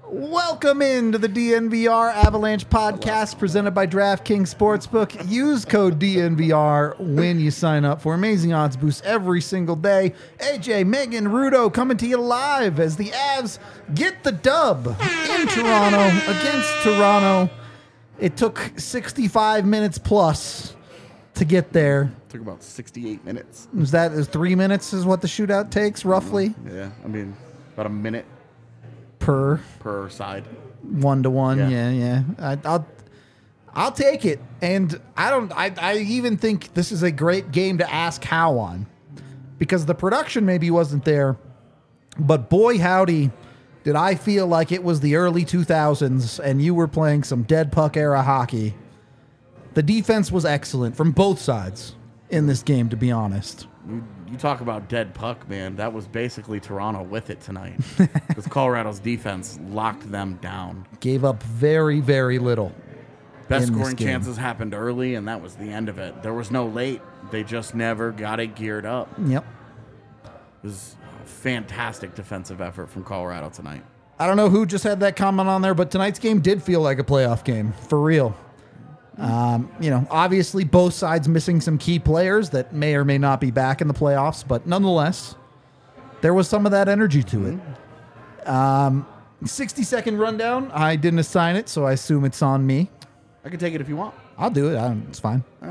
Welcome into the DNVR Avalanche podcast presented by DraftKings Sportsbook. Use code DNVR when you sign up for amazing odds boosts every single day. AJ, Megan, Rudo coming to you live as the Avs get the dub in Toronto against Toronto. It took 65 minutes plus to get there. Took about 68 minutes. Is 3 minutes is what the shootout takes, roughly? Yeah, I mean, about a minute Per side. 1-to-1, Yeah. yeah. I'll take it. And I even think this is a great game to ask how on. Because the production maybe wasn't there, but boy howdy, did I feel like it was the early 2000s and you were playing some dead puck era hockey. The defense was excellent from both sides in this game, to be honest. You talk about dead puck, man. That was basically Toronto with it tonight. Because Colorado's defense locked them down. Gave up very, very little. Best scoring chances happened early, and that was the end of it. There was no late. They just never got it geared up. Yep. It was a fantastic defensive effort from Colorado tonight. I don't know who just had that comment on there, but tonight's game did feel like a playoff game, for real. Obviously both sides missing some key players that may or may not be back in the playoffs, but nonetheless, there was some of that energy to it. 60-second rundown. I didn't assign it, so I assume it's on me. I can take it if you want. I'll do it. It's fine. All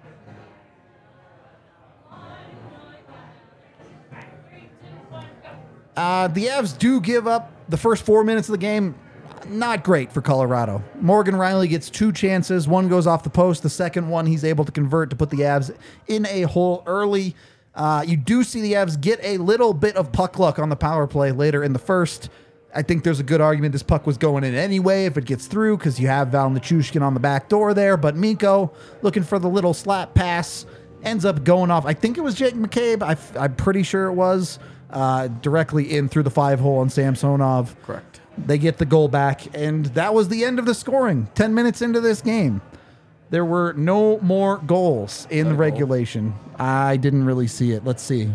right. The Avs do give up the first 4 minutes of the game. Not great for Colorado. Morgan Rielly gets two chances. One goes off the post. The second one he's able to convert to put the Avs in a hole early. You do see the Avs get a little bit of puck luck on the power play later in the first. I think there's a good argument this puck was going in anyway if it gets through because you have Val Nichushkin on the back door there. But Mikko looking for the little slap pass ends up going off. I think it was Jake McCabe. I'm pretty sure it was directly in through the 5-hole on Samsonov. Correct. They get the goal back, and that was the end of the scoring. 10 minutes into this game, there were no more goals in the regulation. I didn't really see it. Let's see.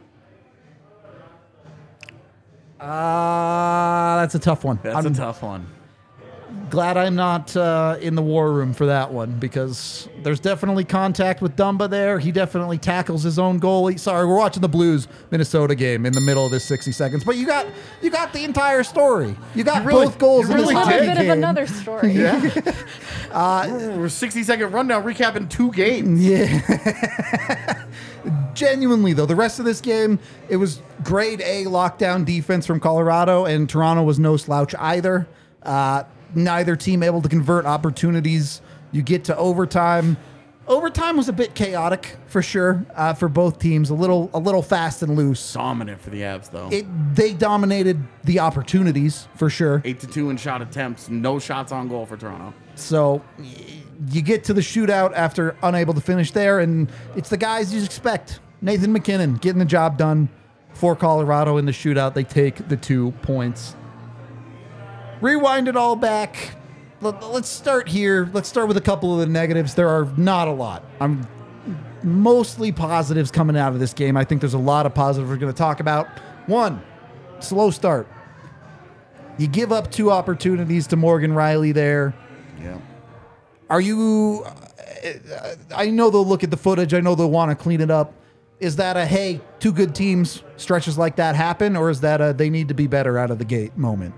That's a tough one. That's a tough one. Glad I'm not in the war room for that one because there's definitely contact with Dumba there. He definitely tackles his own goalie. Sorry, we're watching the Blues Minnesota game in the middle of this 60 seconds, but you got the entire story. You got both goals in this a little bit game. of another story. Yeah. We're 60-second rundown recapping 2 games. Yeah. Genuinely, though, the rest of this game, it was grade A lockdown defense from Colorado, and Toronto was no slouch either. Neither team able to convert opportunities. You get to overtime. Overtime was a bit chaotic for sure for both teams. A little fast and loose. Dominant for the Avs, though. They dominated the opportunities for sure. 8-2 in shot attempts. No shots on goal for Toronto. So you get to the shootout after unable to finish there, and it's the guys you expect. Nathan McKinnon getting the job done for Colorado in the shootout. They take the 2 points. Rewind it all back. Let's start here. Let's start with a couple of the negatives. There are not a lot. I'm mostly positives coming out of this game. I think there's a lot of positives we're going to talk about. One, slow start. You give up 2 opportunities to Morgan Rielly there. Yeah. Are you... I know they'll look at the footage. I know they'll want to clean it up. Is that a, hey, 2 good teams, stretches like that happen? Or is that a, they need to be better out of the gate moment?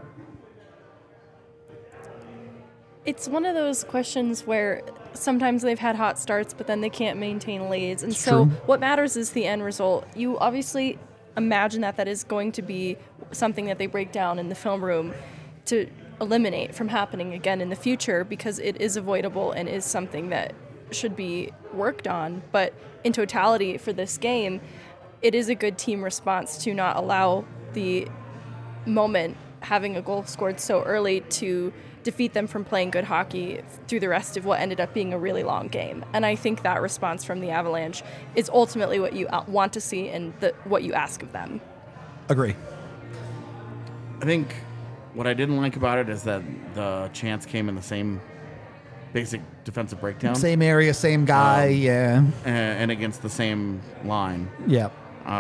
It's one of those questions where sometimes they've had hot starts, but then they can't maintain leads. And so what matters is the end result. You obviously imagine that is going to be something that they break down in the film room to eliminate from happening again in the future because it is avoidable and is something that should be worked on. But in totality for this game, it is a good team response to not allow the moment having a goal scored so early to defeat them from playing good hockey through the rest of what ended up being a really long game. And I think that response from the Avalanche is ultimately what you want to see and what you ask of them. Agree. I think what I didn't like about it is that the chance came in the same basic defensive breakdown. Same area, same guy, yeah. And against the same line. Yeah.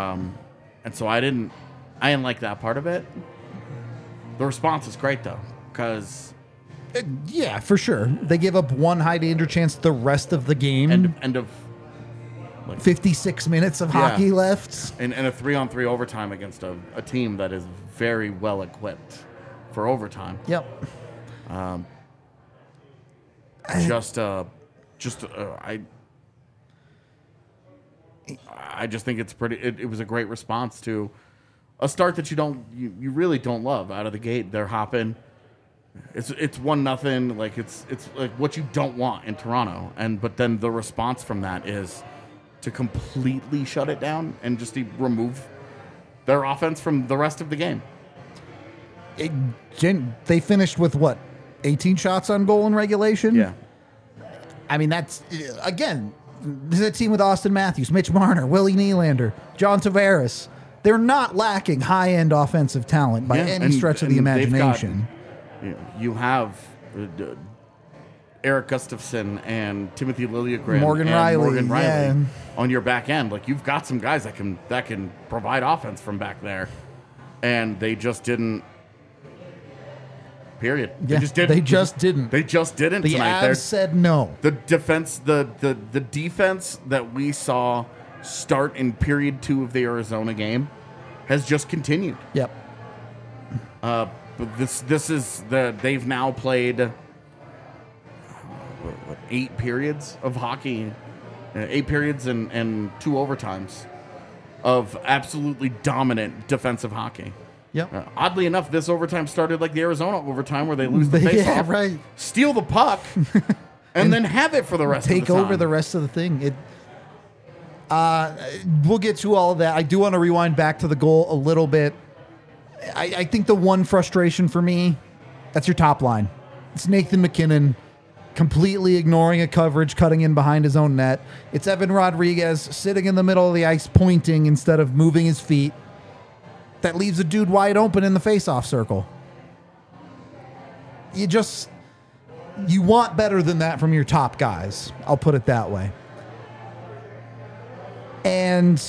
And so I didn't like that part of it. The response is great, though. because Yeah, for sure. They give up one high danger chance the rest of the game. end of 56 minutes of hockey left. and a 3-on-3 overtime against a team that is very well equipped for overtime. Yep. I just think it's pretty. It was a great response to a start that you really don't love out of the gate. They're hopping. It's 1-0. Like it's like what you don't want in Toronto. But then the response from that is to completely shut it down and just remove their offense from the rest of the game. They finished with what? 18 shots on goal in regulation? Yeah. I mean, that's, again, this is a team with Austin Matthews, Mitch Marner, Willie Nylander, John Tavares. They're not lacking high-end offensive talent by any stretch of the imagination. You have Eric Gustafson and Timothy Liljegren, Morgan Riley on your back end. Like, you've got some guys that can provide offense from back there, and they just didn't. Period. Yeah, they just didn't. They just didn't. The tonight. Avs said no. The defense, the defense that we saw start in period 2 of the Arizona game has just continued. Yep. But this is they've now played 8 periods of hockey, 8 periods and 2 overtimes of absolutely dominant defensive hockey. Yep. Oddly enough, this overtime started like the Arizona overtime where they lose the faceoff, Yeah, right. steal the puck, and then have it for the rest of the time. Take over the rest of the thing. We'll get to all of that. I do want to rewind back to the goal a little bit. I think the one frustration for me, that's your top line. It's Nathan MacKinnon completely ignoring a coverage, cutting in behind his own net. It's Evan Rodriguez sitting in the middle of the ice, pointing instead of moving his feet. That leaves a dude wide open in the faceoff circle. You want better than that from your top guys. I'll put it that way. And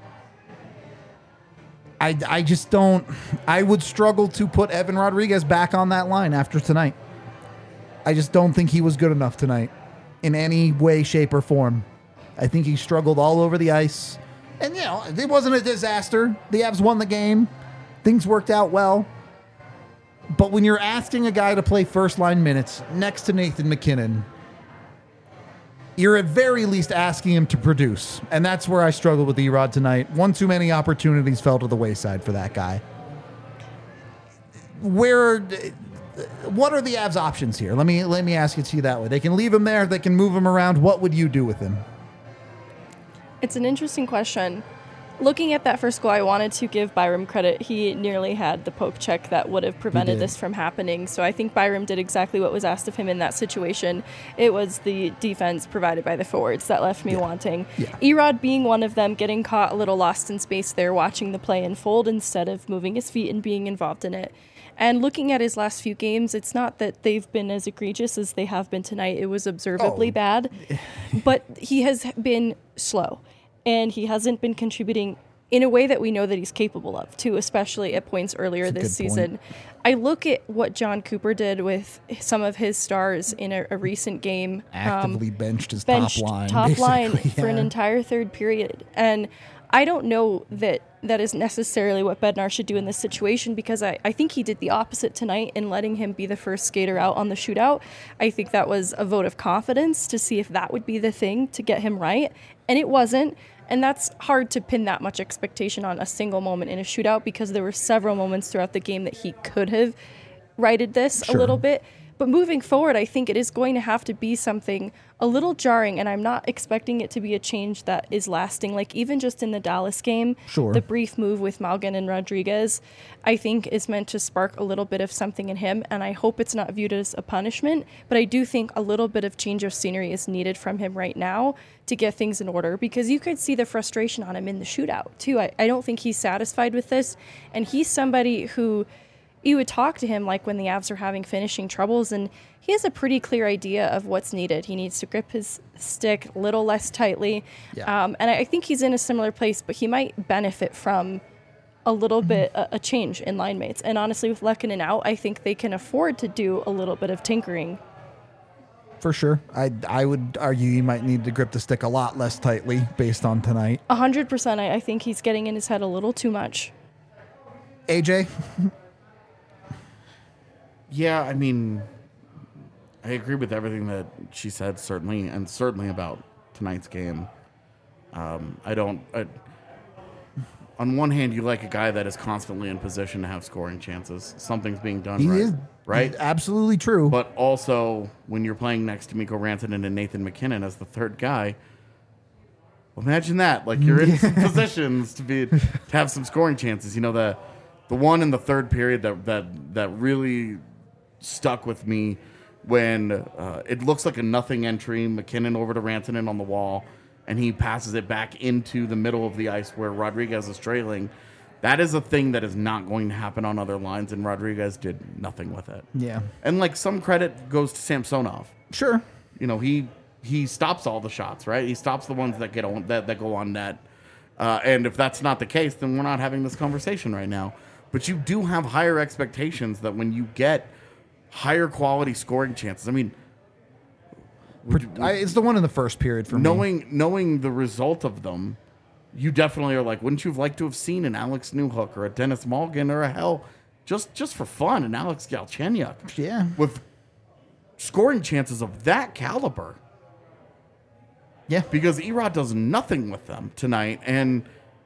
I just don't. I would struggle to put Evan Rodriguez back on that line after tonight. I just don't think he was good enough tonight in any way, shape, or form. I think he struggled all over the ice. And, it wasn't a disaster. The Avs won the game. Things worked out well. But when you're asking a guy to play first-line minutes next to Nathan MacKinnon, you're at very least asking him to produce. And that's where I struggled with Erod tonight. One too many opportunities fell to the wayside for that guy. What are the Avs' options here? Let me ask it to you that way. They can leave him there. They can move him around. What would you do with him? It's an interesting question. Looking at that first goal, I wanted to give Byram credit. He nearly had the poke check that would have prevented this from happening. So I think Byram did exactly what was asked of him in that situation. It was the defense provided by the forwards that left me wanting. Yeah. Erod being one of them, getting caught a little lost in space there, watching the play unfold instead of moving his feet and being involved in it. And looking at his last few games, it's not that they've been as egregious as they have been tonight. It was observably bad. But he has been slow. And he hasn't been contributing in a way that we know that he's capable of, too, especially at points earlier this season. I look at what John Cooper did with some of his stars in a recent game. Actively benched his top line for an entire third period. And I don't know that is necessarily what Bednar should do in this situation, because I think he did the opposite tonight in letting him be the first skater out on the shootout. I think that was a vote of confidence to see if that would be the thing to get him right. And it wasn't. And that's hard to pin that much expectation on a single moment in a shootout, because there were several moments throughout the game that he could have righted this a little bit. But moving forward, I think it is going to have to be something a little jarring, and I'm not expecting it to be a change that is lasting. Like, even just in the Dallas game, the brief move with Malgin and Rodriguez, I think is meant to spark a little bit of something in him, and I hope it's not viewed as a punishment, but I do think a little bit of change of scenery is needed from him right now to get things in order, because you could see the frustration on him in the shootout, too. I don't think he's satisfied with this, and he's somebody who... You would talk to him like when the Avs are having finishing troubles, and he has a pretty clear idea of what's needed. He needs to grip his stick a little less tightly. And I think he's in a similar place, but he might benefit from a little bit a change in line mates. And honestly, with Lehkonen out, I think they can afford to do a little bit of tinkering. For sure. I would argue he might need to grip the stick a lot less tightly based on tonight. 100%. I think he's getting in his head a little too much. AJ? Yeah, I mean, I agree with everything that she said, certainly, and certainly about tonight's game. On one hand, you like a guy that is constantly in position to have scoring chances. Something's being done right? Absolutely true. But also, when you're playing next to Mikko Rantanen and Nathan McKinnon as the third guy, well, imagine that. Like, you're in some positions to have some scoring chances. You know, the one in the third period that really stuck with me when it looks like a nothing entry, McKinnon over to Rantanen on the wall, and he passes it back into the middle of the ice where Rodriguez is trailing. That is a thing that is not going to happen on other lines, and Rodriguez did nothing with it. Yeah. And, like, some credit goes to Samsonov. Sure. You know, he stops all the shots, right? He stops the ones that that go on net. And if that's not the case, then we're not having this conversation right now. But you do have higher expectations that when you get higher quality scoring chances, I mean, It's the one in the first period for me. Knowing the result of them, you definitely are like, wouldn't you have liked to have seen an Alex Newhook or a Dennis Malgin or a hell, just for fun, an Alex Galchenyuk? Yeah. With scoring chances of that caliber. Yeah. Because Erod does nothing with them tonight, and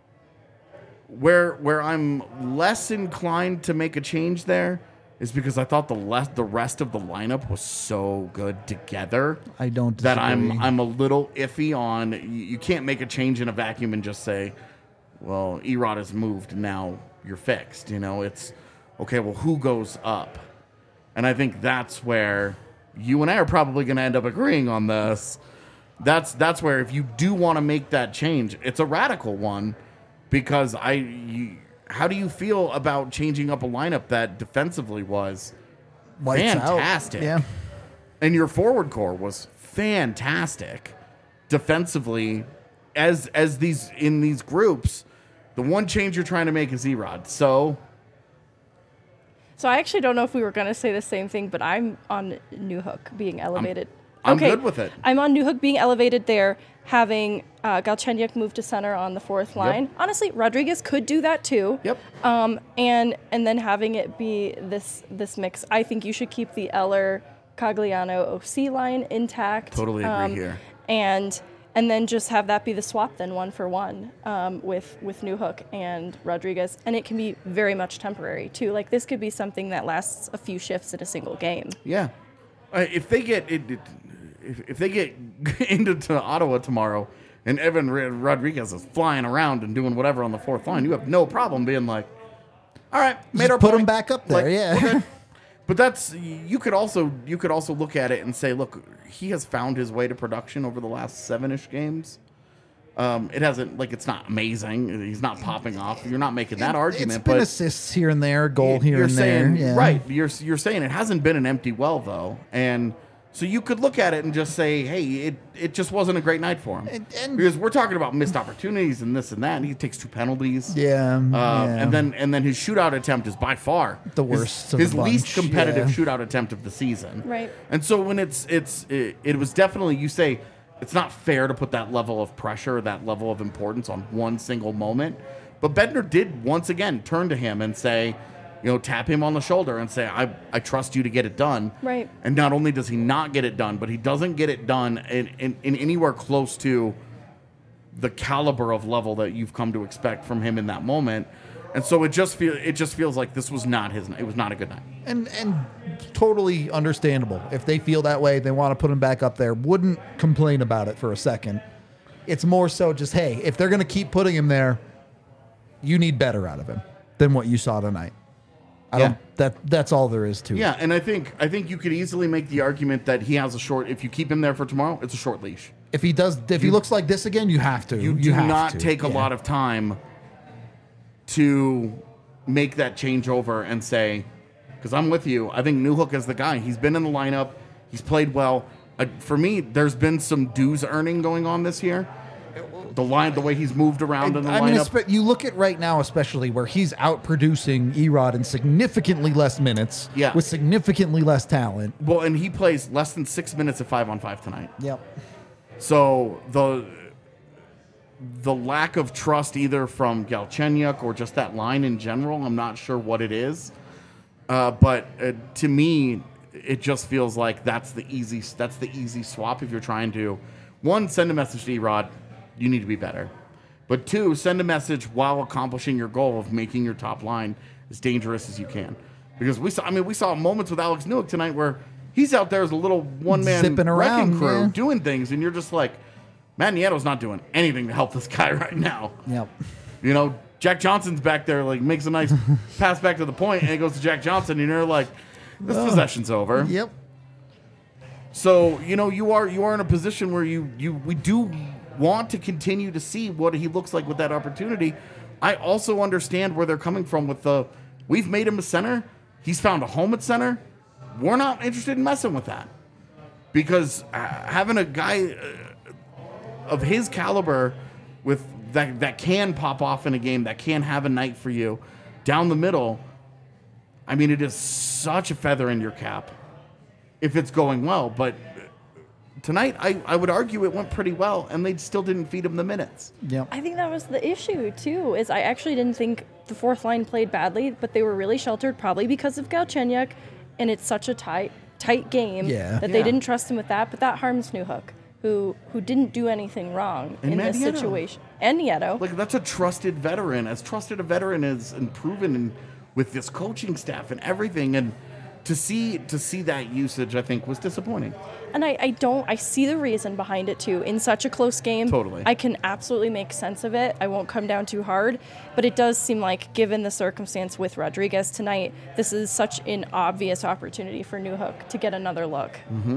where I'm less inclined to make a change there is because I thought the rest of the lineup was so good together. I don't that disagree. I'm a little iffy on. You can't make a change in a vacuum and just say, well, Erod has moved, now you're fixed. You know, it's okay. Well, who goes up? And I think that's where you and I are probably going to end up agreeing on this. That's where if you do want to make that change, it's a radical one, because how do you feel about changing up a lineup that defensively was Lights fantastic? out. Yeah. And your forward core was fantastic defensively. As these in these groups, the one change you're trying to make is Erod. So I actually don't know if we were going to say the same thing, but I'm on Newhook being elevated. I'm good with it. I'm on Newhook being elevated there, having Galchenyuk move to center on the fourth line. Yep. Honestly, Rodriguez could do that too. Yep. And then having it be this mix. I think you should keep the Eller Cogliano OC line intact. Totally agree here. And then just have that be the swap then 1-for-1 with Newhook and Rodriguez. And it can be very much temporary too. Like, this could be something that lasts a few shifts in a single game. Yeah. If they get into Ottawa tomorrow and Evan Rodriguez is flying around and doing whatever on the fourth line, you have no problem being like, all right, made our Put point. him back up there, Like, yeah. we're good. But that's you could also look at it and say, look, he has found his way to production over the last 7-ish games. It hasn't, like, it's not amazing. He's not popping off. You're not making that argument. It's been but assists here and there, goal here you're and saying, there. Yeah. Right. You're saying it hasn't been an empty well, though. And so you could look at it and just say, hey, it just wasn't a great night for him. And because we're talking about missed opportunities and this and that, and he takes 2 penalties. Yeah. And then his shootout attempt is by far The worst of his the least bunch, competitive yeah. shootout attempt of the season. Right. And so when it was definitely, you say, it's not fair to put that level of pressure, that level of importance on one single moment. But Bednar did once again turn to him and say, tap him on the shoulder and say, I trust you to get it done. Right. And not only does he not get it done, but he doesn't get it done in anywhere close to the caliber of level that you've come to expect from him in that moment. And so it just feels like this was not it was not a good night. And totally understandable. If they feel that way, they want to put him back up there. Wouldn't complain about it for a second. It's more so just, hey, if they're going to keep putting him there, you need better out of him than what you saw tonight. That's all there is to it. Yeah, and I think you could easily make the argument that he has if you keep him there for tomorrow, it's a short leash. If he looks like this again, you have to. You do not take a lot of time to make that changeover and say, because I'm with you, I think Newhook is the guy. He's been in the lineup. He's played well. For me, there's been some dues earning going on this year. The way he's moved around in the I mean, lineup. you look at right now, especially where he's out producing Erod in significantly less minutes, Yeah. with significantly less talent. Well, and he plays less than 6 minutes at 5-on-5 tonight. Yep. So the lack of trust either from Galchenyuk or just that line in general, I'm not sure what it is. But to me, it just feels like that's the easy swap if you're trying to, one, send a message to Erod, you need to be better. But two, send a message while accomplishing your goal of making your top line as dangerous as you can. Because we saw moments with Alex Newhook tonight where he's out there as a little one-man Zipping around, wrecking crew yeah. doing things, and you're just like, Matt Nieto's not doing anything to help this guy right now. Yep. You know, Jack Johnson's back there, like, makes a nice pass back to the point, and it goes to Jack Johnson, and you're like, this possession's over. Yep. So, you know, you are in a position where we do want to continue to see what he looks like with that opportunity. I also understand where they're coming from with we've made him a center. He's found a home at center. We're not interested in messing with that. Because having a guy of his caliber with that can pop off in a game, that can have a night for you down the middle, I mean, it is such a feather in your cap if it's going well. But tonight, I would argue it went pretty well, and they still didn't feed him the minutes. Yep. I think that was the issue, too, is I actually didn't think the fourth line played badly, but they were really sheltered, probably because of Galchenyuk, and it's such a tight game that they didn't trust him with that. But that harms Newhook, who didn't do anything wrong in this situation. And Nieto. Like, that's a trusted veteran. As trusted a veteran is and proven with this coaching staff and everything. And to see that usage, I think, was disappointing. And I see the reason behind it too. In such a close game, Totally. I can absolutely make sense of it. I won't come down too hard, but it does seem like, given the circumstance with Rodriguez tonight, this is such an obvious opportunity for Newhook to get another look. Mm-hmm.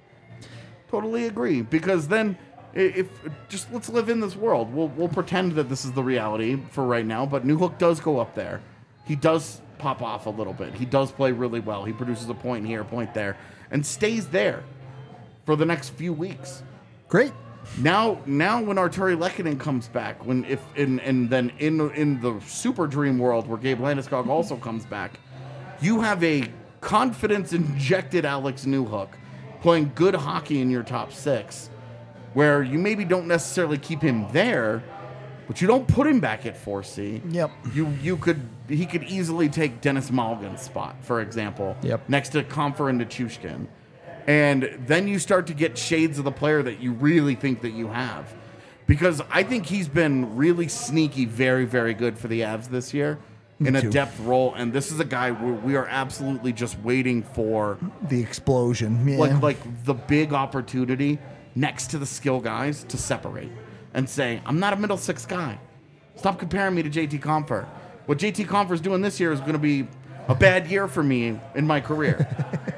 Totally agree. Because then, if just let's live in this world. We'll pretend that this is the reality for right now. But Newhook does go up there. He does pop off a little bit. He does play really well. He produces a point here, a point there, and stays there for the next few weeks. Great. Now when Arturi Lehkonen comes back, then in the super dream world where Gabe Landeskog also comes back, you have a confidence injected Alex Newhook playing good hockey in your top six, where you maybe don't necessarily keep him there, but you don't put him back at 4C. Yep. He could easily take Dennis Malgin's spot, for example. Yep. Next to Comfer and Nichushkin. And then you start to get shades of the player that you really think that you have. Because I think he's been really sneaky, very, very good for the Avs this year in a depth role. And this is a guy where we are absolutely just waiting for The explosion. Yeah. like the big opportunity next to the skill guys to separate and say, I'm not a middle six guy. Stop comparing me to JT Compher. What JT Compher's doing this year is going to be a bad year for me in my career.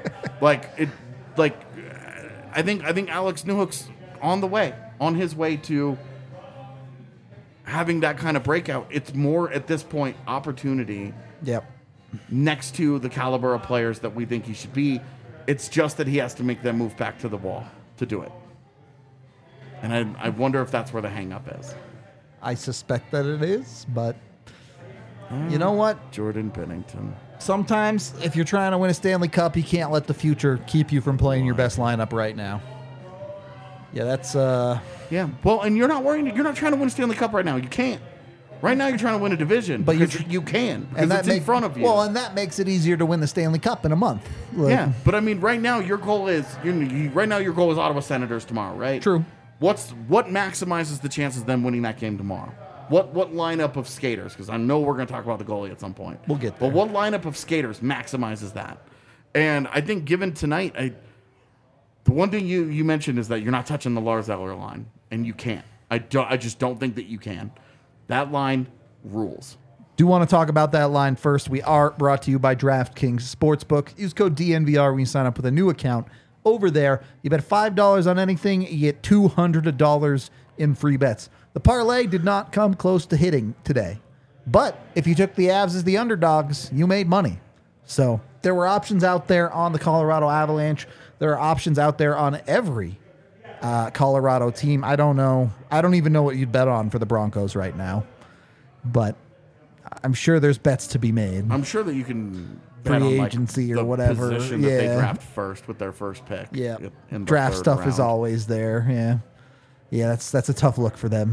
I think Alex Newhook's on his way to having that kind of breakout. It's more at this point opportunity Yep. next to the caliber of players that we think he should be. It's just that he has to make that move back to the wall to do it. And I wonder if that's where the hang-up is. I suspect that it is, but you know what? Jordan Bennington. Sometimes if you're trying to win a Stanley Cup, you can't let the future keep you from playing your best lineup right now. Yeah, that's Yeah. Well, and you're not trying to win a Stanley Cup right now. You can't. Right now you're trying to win a division, But because you can. Because and it's in front of you. Well, and that makes it easier to win the Stanley Cup in a month. Like, yeah, but I mean, right now your goal is Ottawa Senators tomorrow, right? True. What maximizes the chances of them winning that game tomorrow? What lineup of skaters? Because I know we're going to talk about the goalie at some point. We'll get there. But what lineup of skaters maximizes that? And I think given tonight, the one thing you mentioned is that you're not touching the Lars Eller line, and you can't. I just don't think that you can. That line rules. Do want to talk about that line first. We are brought to you by DraftKings Sportsbook. Use code DNVR when you sign up with a new account. Over there, you bet $5 on anything, you get $200 in free bets. The parlay did not come close to hitting today. But if you took the Avs as the underdogs, you made money. So there were options out there on the Colorado Avalanche. There are options out there on every Colorado team. I don't know. I don't even know what you'd bet on for the Broncos right now, but I'm sure there's bets to be made. I'm sure that you can bet Free on, agency or the whatever. position that they draft first with their first pick. Yeah, in the draft third stuff is round. always there. Yeah. That's a tough look for them.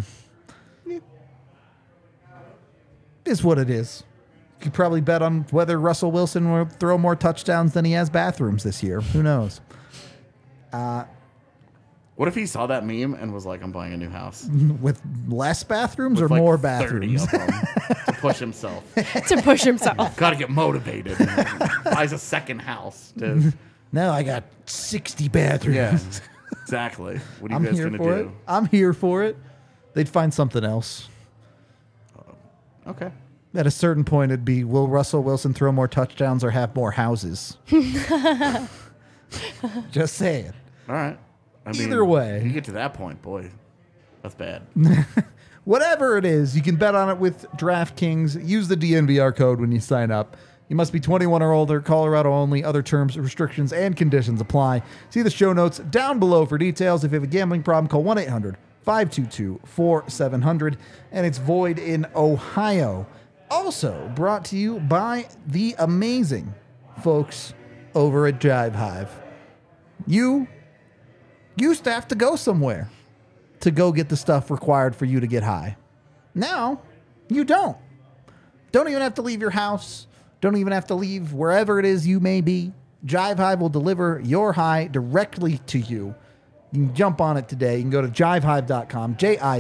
Is what it is. You could probably bet on whether Russell Wilson will throw more touchdowns than he has bathrooms this year. Who knows? What if he saw that meme and was like, "I'm buying a new house With less bathrooms with or like more 30 bathrooms? of them to push himself? To push himself. Got to get motivated. Buys a second house. Now I got 60 bathrooms. Yeah, exactly. What are you I'm guys here gonna for do? it. I'm here for it. They'd find something else. Okay. At a certain point, it'd be, will Russell Wilson throw more touchdowns or have more houses? Just saying. All right. Either way. if you get to that point, boy, that's bad. Whatever it is, you can bet on it with DraftKings. Use the DNVR code when you sign up. You must be 21 or older, Colorado only. Other terms, restrictions, and conditions apply. See the show notes down below for details. If you have a gambling problem, call 1-800-522-4700. And it's void in Ohio. Also brought to you by the amazing folks over at Jive Hive. You used to have to go somewhere to go get the stuff required for you to get high. Now, you don't. Don't even have to leave your house. Don't even have to leave wherever it is you may be. Jive Hive will deliver your high directly to you. You can jump on it today. You can go to jivehive.com,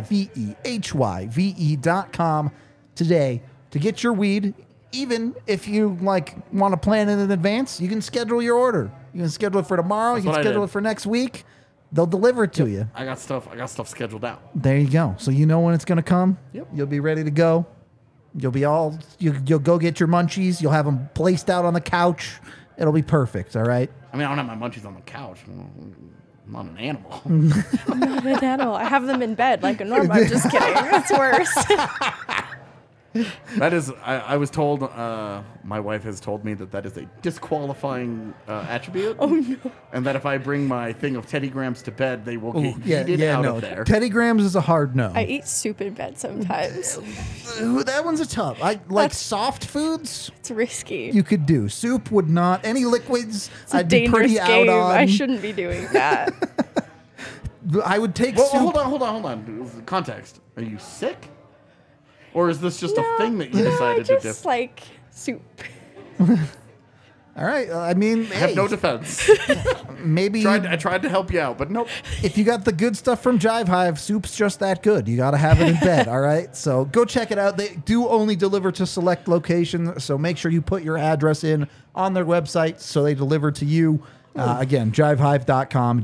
JIVEHYVE.com today to get your weed. Even if you want to plan it in advance, you can schedule your order. You can schedule it for tomorrow. That's you what can I schedule did. it for next week. They'll deliver it to you. I got stuff scheduled out. There you go. So you know when it's going to come. Yep. You'll be ready to go. You'll be you'll go get your munchies. You'll have them placed out on the couch. It'll be perfect. All right. I mean, I don't have my munchies on the couch. I'm not an animal. I'm not an animal. I have them in bed like a normal. I'm just kidding. It's worse. That is, I was told, my wife has told me that is a disqualifying attribute. Oh, no. And that if I bring my thing of Teddy Grahams to bed, they will get yeeted out no. of there. Teddy Grahams is a hard no. I eat soup in bed sometimes. Ooh, that one's a tough. I like That's- soft foods. It's risky. You could do soup. Would not any liquids. It's a I'd be dangerous pretty game. out on. I shouldn't be doing that. I would take Well, soup. hold on. Context. Are you sick? Or is this just a No, thing that you no, decided I to just do? like soup. All right. I mean, I have hey, no defense. maybe I tried to help you out, but nope. if you got the good stuff from Jive Hive, soup's just that good. You got to have it in bed, all right? So go check it out. They do only deliver to select locations, so make sure you put your address in on their website so they deliver to you. Again, jivehive.com,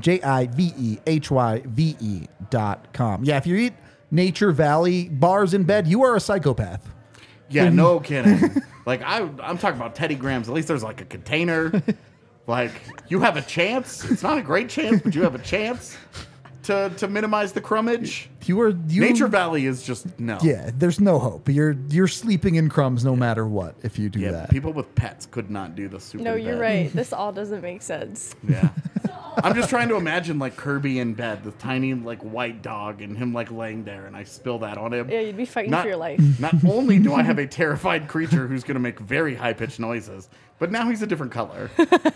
JIVEHYVE.com. Yeah, if you eat Nature Valley bars in bed, you are a psychopath. Yeah, no kidding. Like I'm talking about Teddy Grahams. At least there's like a container. Like you have a chance. It's not a great chance, but you have a chance to minimize the crumbage. Nature Valley is just no. Yeah, there's no hope. You're sleeping in crumbs no matter what if you do Yeah, that. people with pets could not do the soup. No, in you're bed. right. This all doesn't make sense. Yeah. I'm just trying to imagine like Kirby in bed, the tiny like white dog, and him like laying there, and I spill that on him. Yeah, you'd be fighting Not- for your life. Not only do I have a terrified creature who's going to make very high pitched noises, but now he's a different color.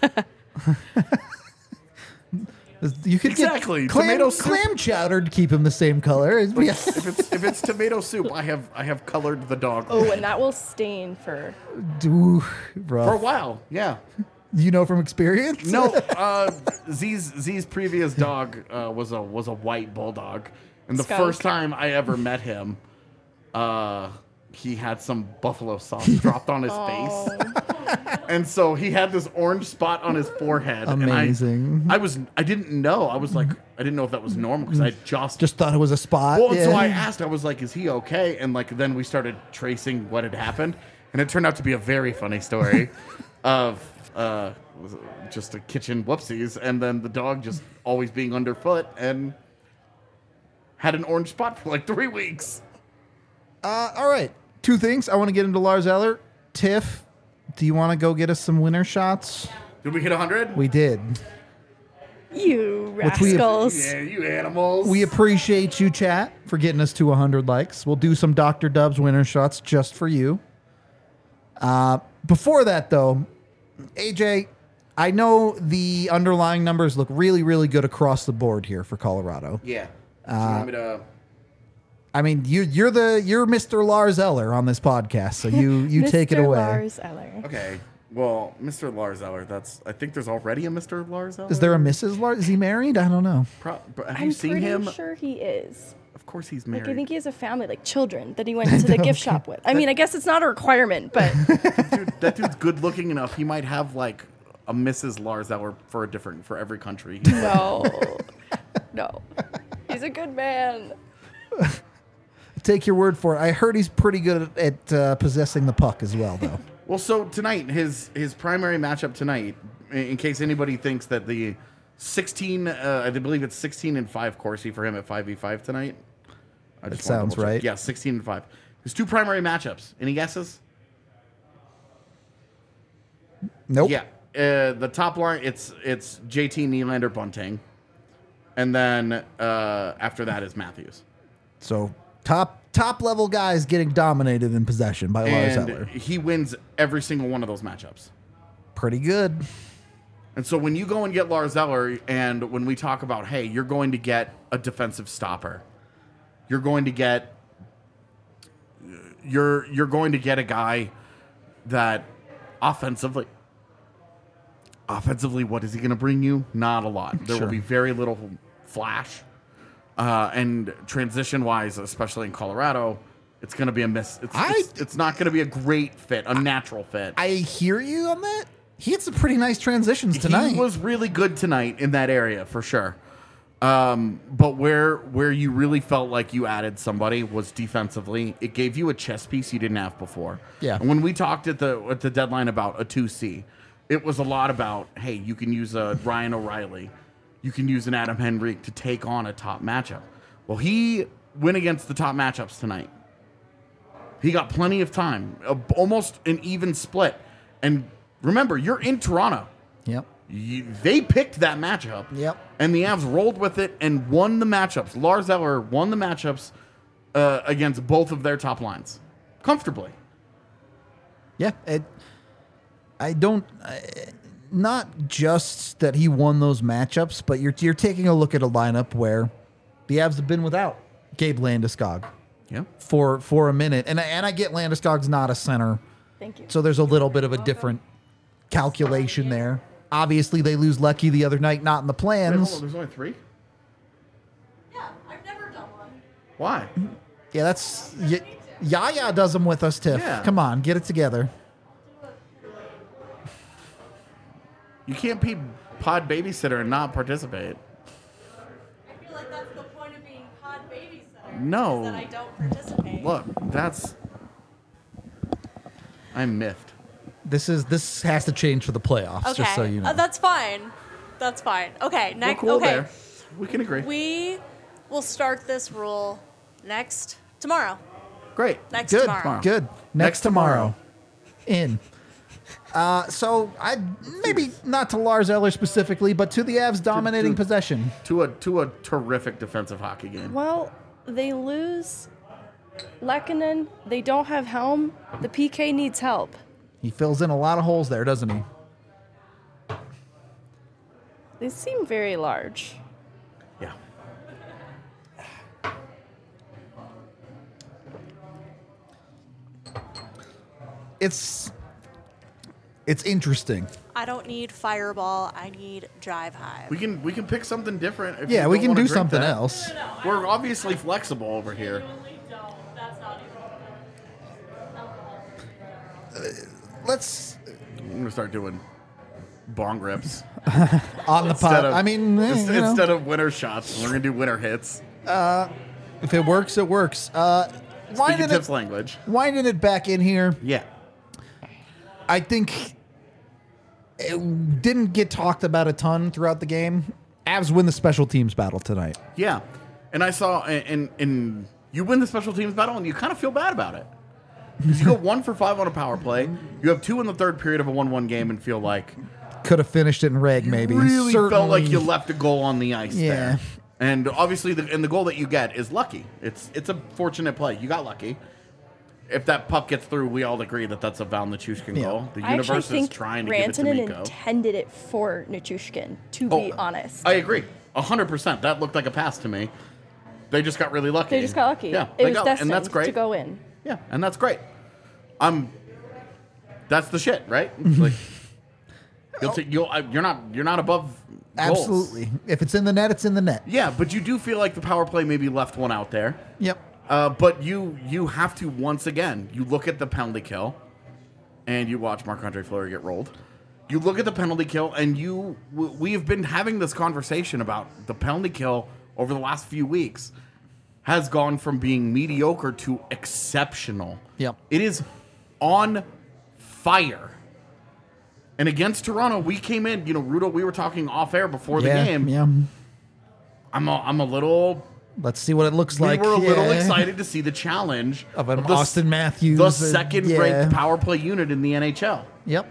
You could Exactly. get clam, Tomato soup. clam chowder to keep him the same color. Like, if it's tomato soup, I have colored the dog Oh, and that will stain for. Ooh, for a rough. while. Yeah. You know from experience? No, Z's previous dog was a white bulldog, and the Skunk. first time I ever met him, he had some buffalo sauce dropped on his face, and so he had this orange spot on his forehead. Amazing. And I didn't know. I was like, I didn't know if that was normal because I Just thought it was a spot. Well, yeah. so I asked. I was like, "Is he okay?" And like, then we started tracing what had happened, and it turned out to be a very funny story of just a kitchen whoopsies, and then the dog just always being underfoot and had an orange spot for like 3 weeks. All right. Two things. I want to get into Lars Eller. Tiff, do you want to go get us some winner shots? Did we hit 100? We did. You Which we- rascals. Yeah, you animals. We appreciate you, chat, for getting us to 100 likes. We'll do some Dr. Dubs winner shots just for you. Before that, though, AJ, I know the underlying numbers look really, really good across the board here for Colorado. Yeah. Do you want me to... I mean, you're Mr. Lars Eller on this podcast, so you take it Mr. away. Lars Eller. Okay. Well, Mr. Lars Eller, I think there's already a Mr. Lars Eller. Is there a Mrs. Lars? Is he married? I don't know. Have I'm you seen pretty him? sure he is. Of course he's Like, married. I think he has a family, like children, that he went to the gift shop with. I mean, I guess it's not a requirement, but That dude's good looking enough. He might have like a Mrs. Lars Eller for every country. no. No. He's a good man. Take your word for it. I heard he's pretty good at possessing the puck as well, though. Well, so tonight, his primary matchup tonight, in case anybody thinks that the 16, I believe it's 16-5 Corsi for him at 5v5 tonight. I just wanna sounds double check. right. Yeah, 16-5. His two primary matchups. Any guesses? Nope. Yeah. The top line, it's JT Nylander Bunting. And then after that is Matthews. So top level guys getting dominated in possession by Lars And Eller. he wins every single one of those matchups. Pretty good. And so when you go and get Lars Eller, and when we talk about, hey, you're going to get a defensive stopper, you're going to get a guy that offensively, what is he going to bring you? Not a lot. There Sure. will be very little flash. And transition wise, especially in Colorado, it's going to be a miss. It's not going to be a great fit, a natural fit. I hear you on that. He had some pretty nice transitions tonight. He was really good tonight in that area for sure. But where you really felt like you added somebody was defensively. It gave you a chess piece you didn't have before. Yeah. And when we talked at the deadline about a 2C, it was a lot about, hey, you can use a Ryan O'Reilly, you can use an Adam Henrique to take on a top matchup. Well, he went against the top matchups tonight. He got plenty of time, almost an even split. And remember, you're in Toronto. Yep. They picked that matchup. Yep. And the Avs rolled with it and won the matchups. Lars Eller won the matchups against both of their top lines comfortably. Yeah. Not just that he won those matchups, but you're taking a look at a lineup where the Avs have been without Gabe Landeskog Yeah. for a minute. And I get Landeskog's not a center, Thank you. so there's a little bit of a different calculation there. Obviously, they lose Lecky the other night, not in the Wait, hold plans. on, there's only 3? Yeah, I've never done one. Why? Yeah, that's Yaya does them with us, Tiff. Yeah. Come on, get it together. You can't be pod babysitter and not participate. I feel like that's the point of being pod babysitter. No. Is that I don't participate. Look, I'm miffed. This has to change for the playoffs, Okay, just so you know. that's fine. That's fine. Okay, We're next. cool okay, there. We can agree. we will start this rule tomorrow. Great. Next Good, tomorrow. good. Next tomorrow. In. So I maybe not to Lars Eller specifically, but to the Avs dominating possession. To a terrific defensive hockey game. Well, they lose Lehkonen. They don't have Helm. The PK needs help. He fills in a lot of holes there, doesn't he? They seem very large. Yeah. It's interesting. I don't need Fireball. I need Drive Hive. We can pick something different. If Yeah, you we don't can wanna do drink something that. else. We're obviously flexible over here. Let's I'm gonna start doing bong rips on the pod. of, I mean, instead of winter shots. We're gonna do winter hits. if it works, it works. Speaking Winding Tips it, language. winding it back in here. Yeah. I think it didn't get talked about a ton throughout the game. Avs win the special teams battle tonight. Yeah. And I saw and you win the special teams battle and you kind of feel bad about it. Because you go 1 for 5 on a power play. You have 2 in the third period of a 1-1 game and feel like, Could have finished it in reg, maybe. Really felt like Certainly. you left a goal on the ice Yeah. there. And obviously, the goal that you get is lucky. It's a fortunate play. You got lucky. If that puck gets through, we all agree that that's a Val Nichushkin Yeah. goal. The I actually universe is think trying to give it to Rantanen Mikko. intended it for Nichushkin, to be honest. I agree. 100%. That looked like a pass to me. They just got really lucky. They just got lucky. Yeah, it they was got, destined and that's great. to go in. Yeah, and that's great. That's the shit, right? Like, you're not above goals. Absolutely. If it's in the net, it's in the net. Yeah, but you do feel like the power play maybe left one out there. Yep. But you have to, once again, you look at the penalty kill, and you watch Marc-Andre Fleury get rolled. You look at the penalty kill, and we have been having this conversation about the penalty kill over the last few weeks has gone from being mediocre to exceptional. Yep. It is on fire. And against Toronto, we came in, Rudo, we were talking off air before the game. Yeah. I'm a little... Let's see what it looks like. We were a little Yeah. excited to see the challenge Of an the Austin Matthews. the second-ranked yeah. power play unit in the NHL. Yep.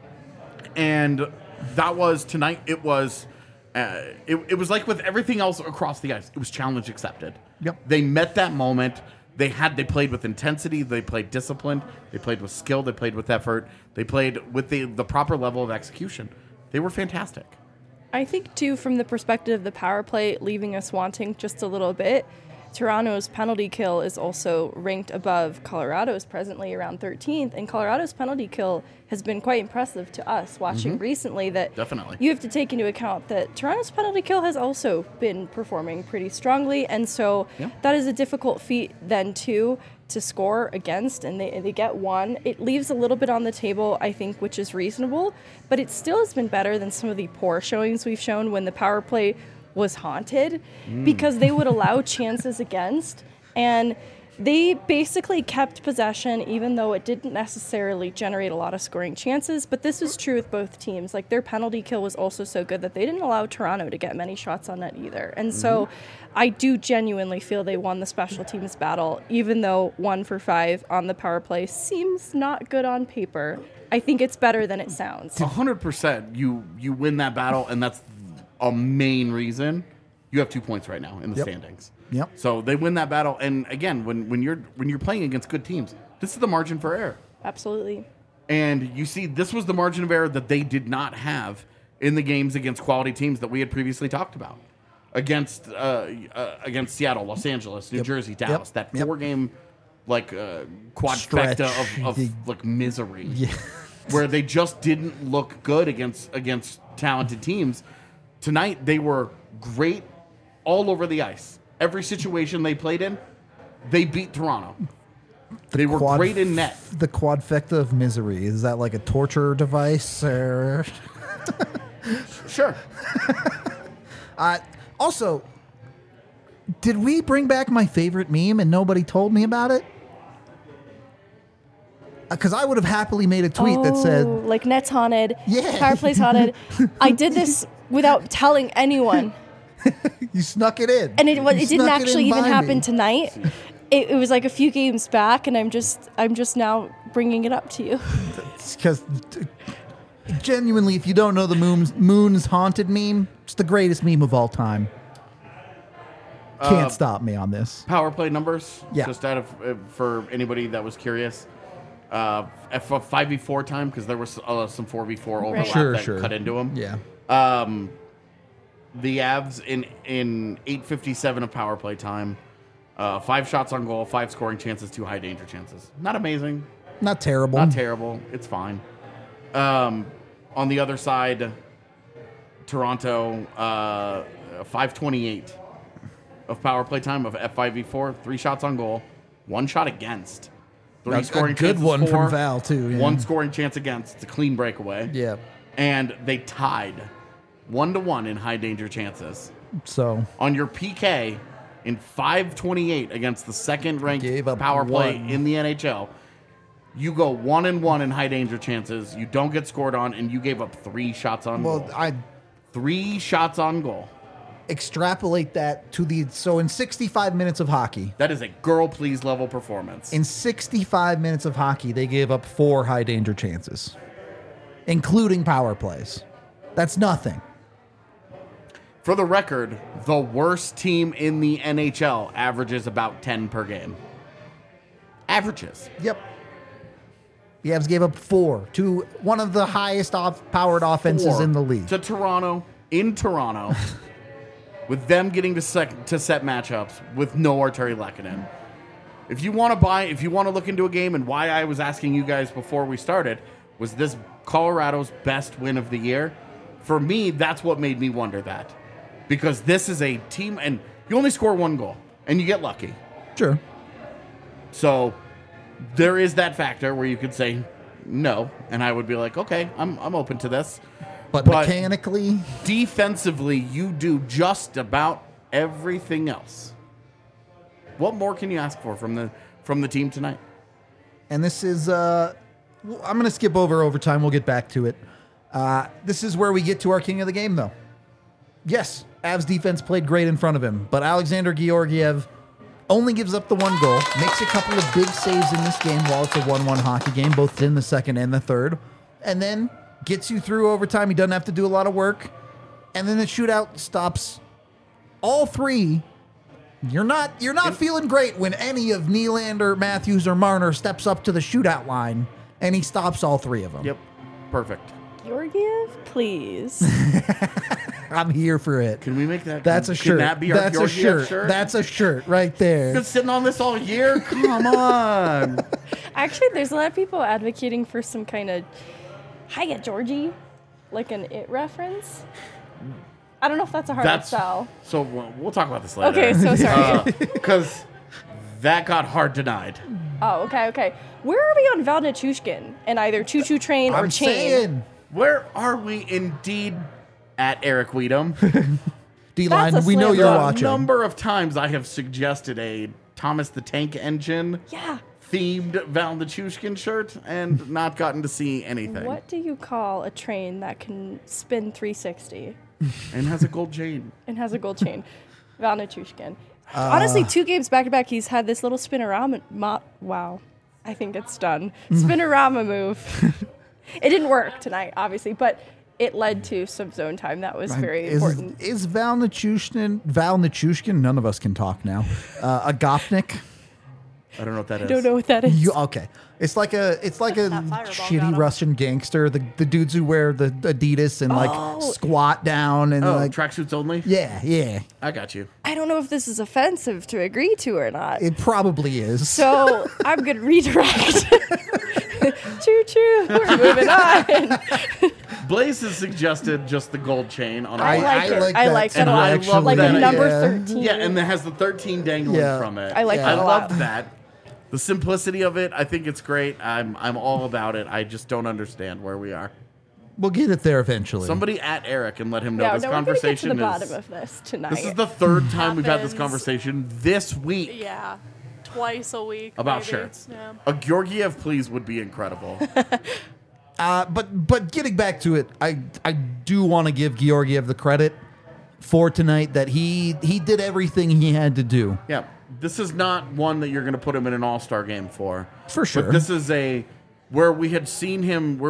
And that was tonight. It was, it was like with everything else across the ice. It was challenge accepted. Yep. They met that moment. They played with intensity. They played disciplined. They played with skill. They played with effort. They played with the proper level of execution. They were fantastic. I think, too, from the perspective of the power play leaving us wanting just a little bit, Toronto's penalty kill is also ranked above Colorado's, presently around 13th. And Colorado's penalty kill has been quite impressive to us watching recently. That Definitely. you have to take into account that Toronto's penalty kill has also been performing pretty strongly. And so that is a difficult feat then, too, to score against, and they get one. It leaves a little bit on the table, I think, which is reasonable, but it still has been better than some of the poor showings we've shown when the power play was haunted, because they would allow chances against, and they basically kept possession even though it didn't necessarily generate a lot of scoring chances. But this is true with both teams. Like, their penalty kill was also so good that they didn't allow Toronto to get many shots on net either. And so I do genuinely feel they won the special teams battle, even though 1 for 5 on the power play seems not good on paper. I think it's better than it sounds. 100%. You win that battle, and that's a main reason. You have 2 points right now in the standings. Yep. So they win that battle, and again, when you're playing against good teams, this is the margin for error. Absolutely. And you see, this was the margin of error that they did not have in the games against quality teams that we had previously talked about. Against Seattle, Los Angeles, New Jersey, Dallas. That 4-game quadfecta of misery. Yeah. Where they just didn't look good against talented teams. Tonight, they were great all over the ice. Every situation they played in, they beat Toronto. They were great in net. The quadfecta of misery. Is that like a torture device? Or Sure. Also, did we bring back my favorite meme and nobody told me about it? Because I would have happily made a tweet that said, like, net's haunted, Yeah. power play's haunted. I did this without telling anyone. you snuck it in. And it You didn't snuck it actually in even by happen me. tonight. It was like a few games back, and I'm just now bringing it up to you. Because genuinely, if you don't know the Moon's Haunted meme, it's the greatest meme of all time. Can't stop me on this. Power play numbers. Yeah. Just out of for anybody that was curious. For 5v4 time, because there was some 4v4 overlap Sure, that sure. cut into them. Yeah. The Avs in 8:57 of power play time, 5 shots on goal, 5 scoring chances, 2 high danger chances. Not amazing, Not terrible. not terrible. It's fine. On the other side, Toronto 5:28 of power play time of F5v4, 3 shots on goal, 1 shot against. 3 A scoring good chances one for, from Val, too. Yeah. 1 scoring chance against. It's a clean breakaway. Yeah. And they tied 1-1 in high danger chances. So On your PK in 5:28 against the second ranked Gave up power play 1. in the NHL, you go 1-1 in high danger chances. You don't get scored on, and you gave up 3 shots on goal. I 3 shots on goal. extrapolate that to so in 65 minutes of hockey, That is a girl please level performance. in 65 minutes of hockey, they gave up 4 high danger chances, including power plays. That's nothing. For the record, the worst team in the NHL averages about 10 per game. Averages. Yep. The Avs gave up 4 to one of the highest powered offenses 4 in the league. to Toronto, in Toronto, with them getting to set matchups with no Arturi Lehkonen. If you want to look into a game, and why I was asking you guys before we started, was this Colorado's best win of the year? For me, that's what made me wonder that. Because this is a team, and you only score 1 goal, and you get lucky. Sure. So there is that factor where you could say no, and I would be like, okay, I'm open to this. But mechanically, defensively, you do just about everything else. What more can you ask for from the team tonight? and this is I'm going to skip over overtime. We'll get back to it. This is where we get to our king of the game, though. Yes, Avs defense played great in front of him, but Alexander Georgiev only gives up the 1 goal, makes a couple of big saves in this game while it's a 1-1 hockey game, both in the second and the third, and then gets you through overtime. He doesn't have to do a lot of work, and then the shootout stops all 3. You're not feeling great when any of Nylander, Matthews, or Marner steps up to the shootout line, and he stops all 3 of them. Yep, perfect. Georgiev, please. I'm here for it. Can we make that? That's a shirt. Can that be our That's a Georgiev shirt. That's a shirt right there. Been sitting on this all year. Come on. Actually, there's a lot of people advocating for some kind of "Hiya, Georgie," like an It reference. I don't know if that's a hard sell. So we'll talk about this later. Okay, so sorry. Because that got hard denied. Oh, okay. Where are we on Val Nichushkin and either Choo Choo Train or I'm Chain? saying, Where are we indeed at Eric Weedham? D-line, That's a we know slam you're dunk. watching. Number of times I have suggested a Thomas the Tank Engine Yeah. themed Val Nichushkin shirt and not gotten to see anything. What do you call a train that can spin 360 And has a gold chain. and has a gold chain? Val Nichushkin. Honestly, 2 games back to back, he's had this little spinorama. Wow. I think it's done. Spinorama move. It didn't work tonight, obviously, but it led to some zone time. That was very important. Is Val Nichushkin, none of us can talk now, a Gopnik? I don't know what that is. I don't know what that is. Okay. It's like a That fireball got shitty him. Russian gangster, the dudes who wear the Adidas and like squat down and Oh, like tracksuits only? yeah. I got you. I don't know if this is offensive to agree to or not. It probably is. So I'm going to redirect. Choo choo. We're moving on. Blaze has suggested just the gold chain on I our like it. I like that that a lot. actually. I love Like that a number idea. 13. Yeah, and it has the 13 dangling Yeah. from it. I like Yeah. that I a lot. love that. The simplicity of it, I think it's great. I'm all about it. I just don't understand where we are. We'll get it there eventually. Somebody at Eric and let him know Yeah, this no, we're going to get to conversation the bottom is. of this tonight. This is the 3rd time we've had this Happens. conversation this week Yeah. Twice a week. about maybe. shirts. Yeah. A Georgiev, please, would be incredible. But getting back to it, I do want to give Georgiev the credit for tonight that he did everything he had to do. Yeah, this is not one that you're going to put him in an all-star game for. For sure. But this is where we had seen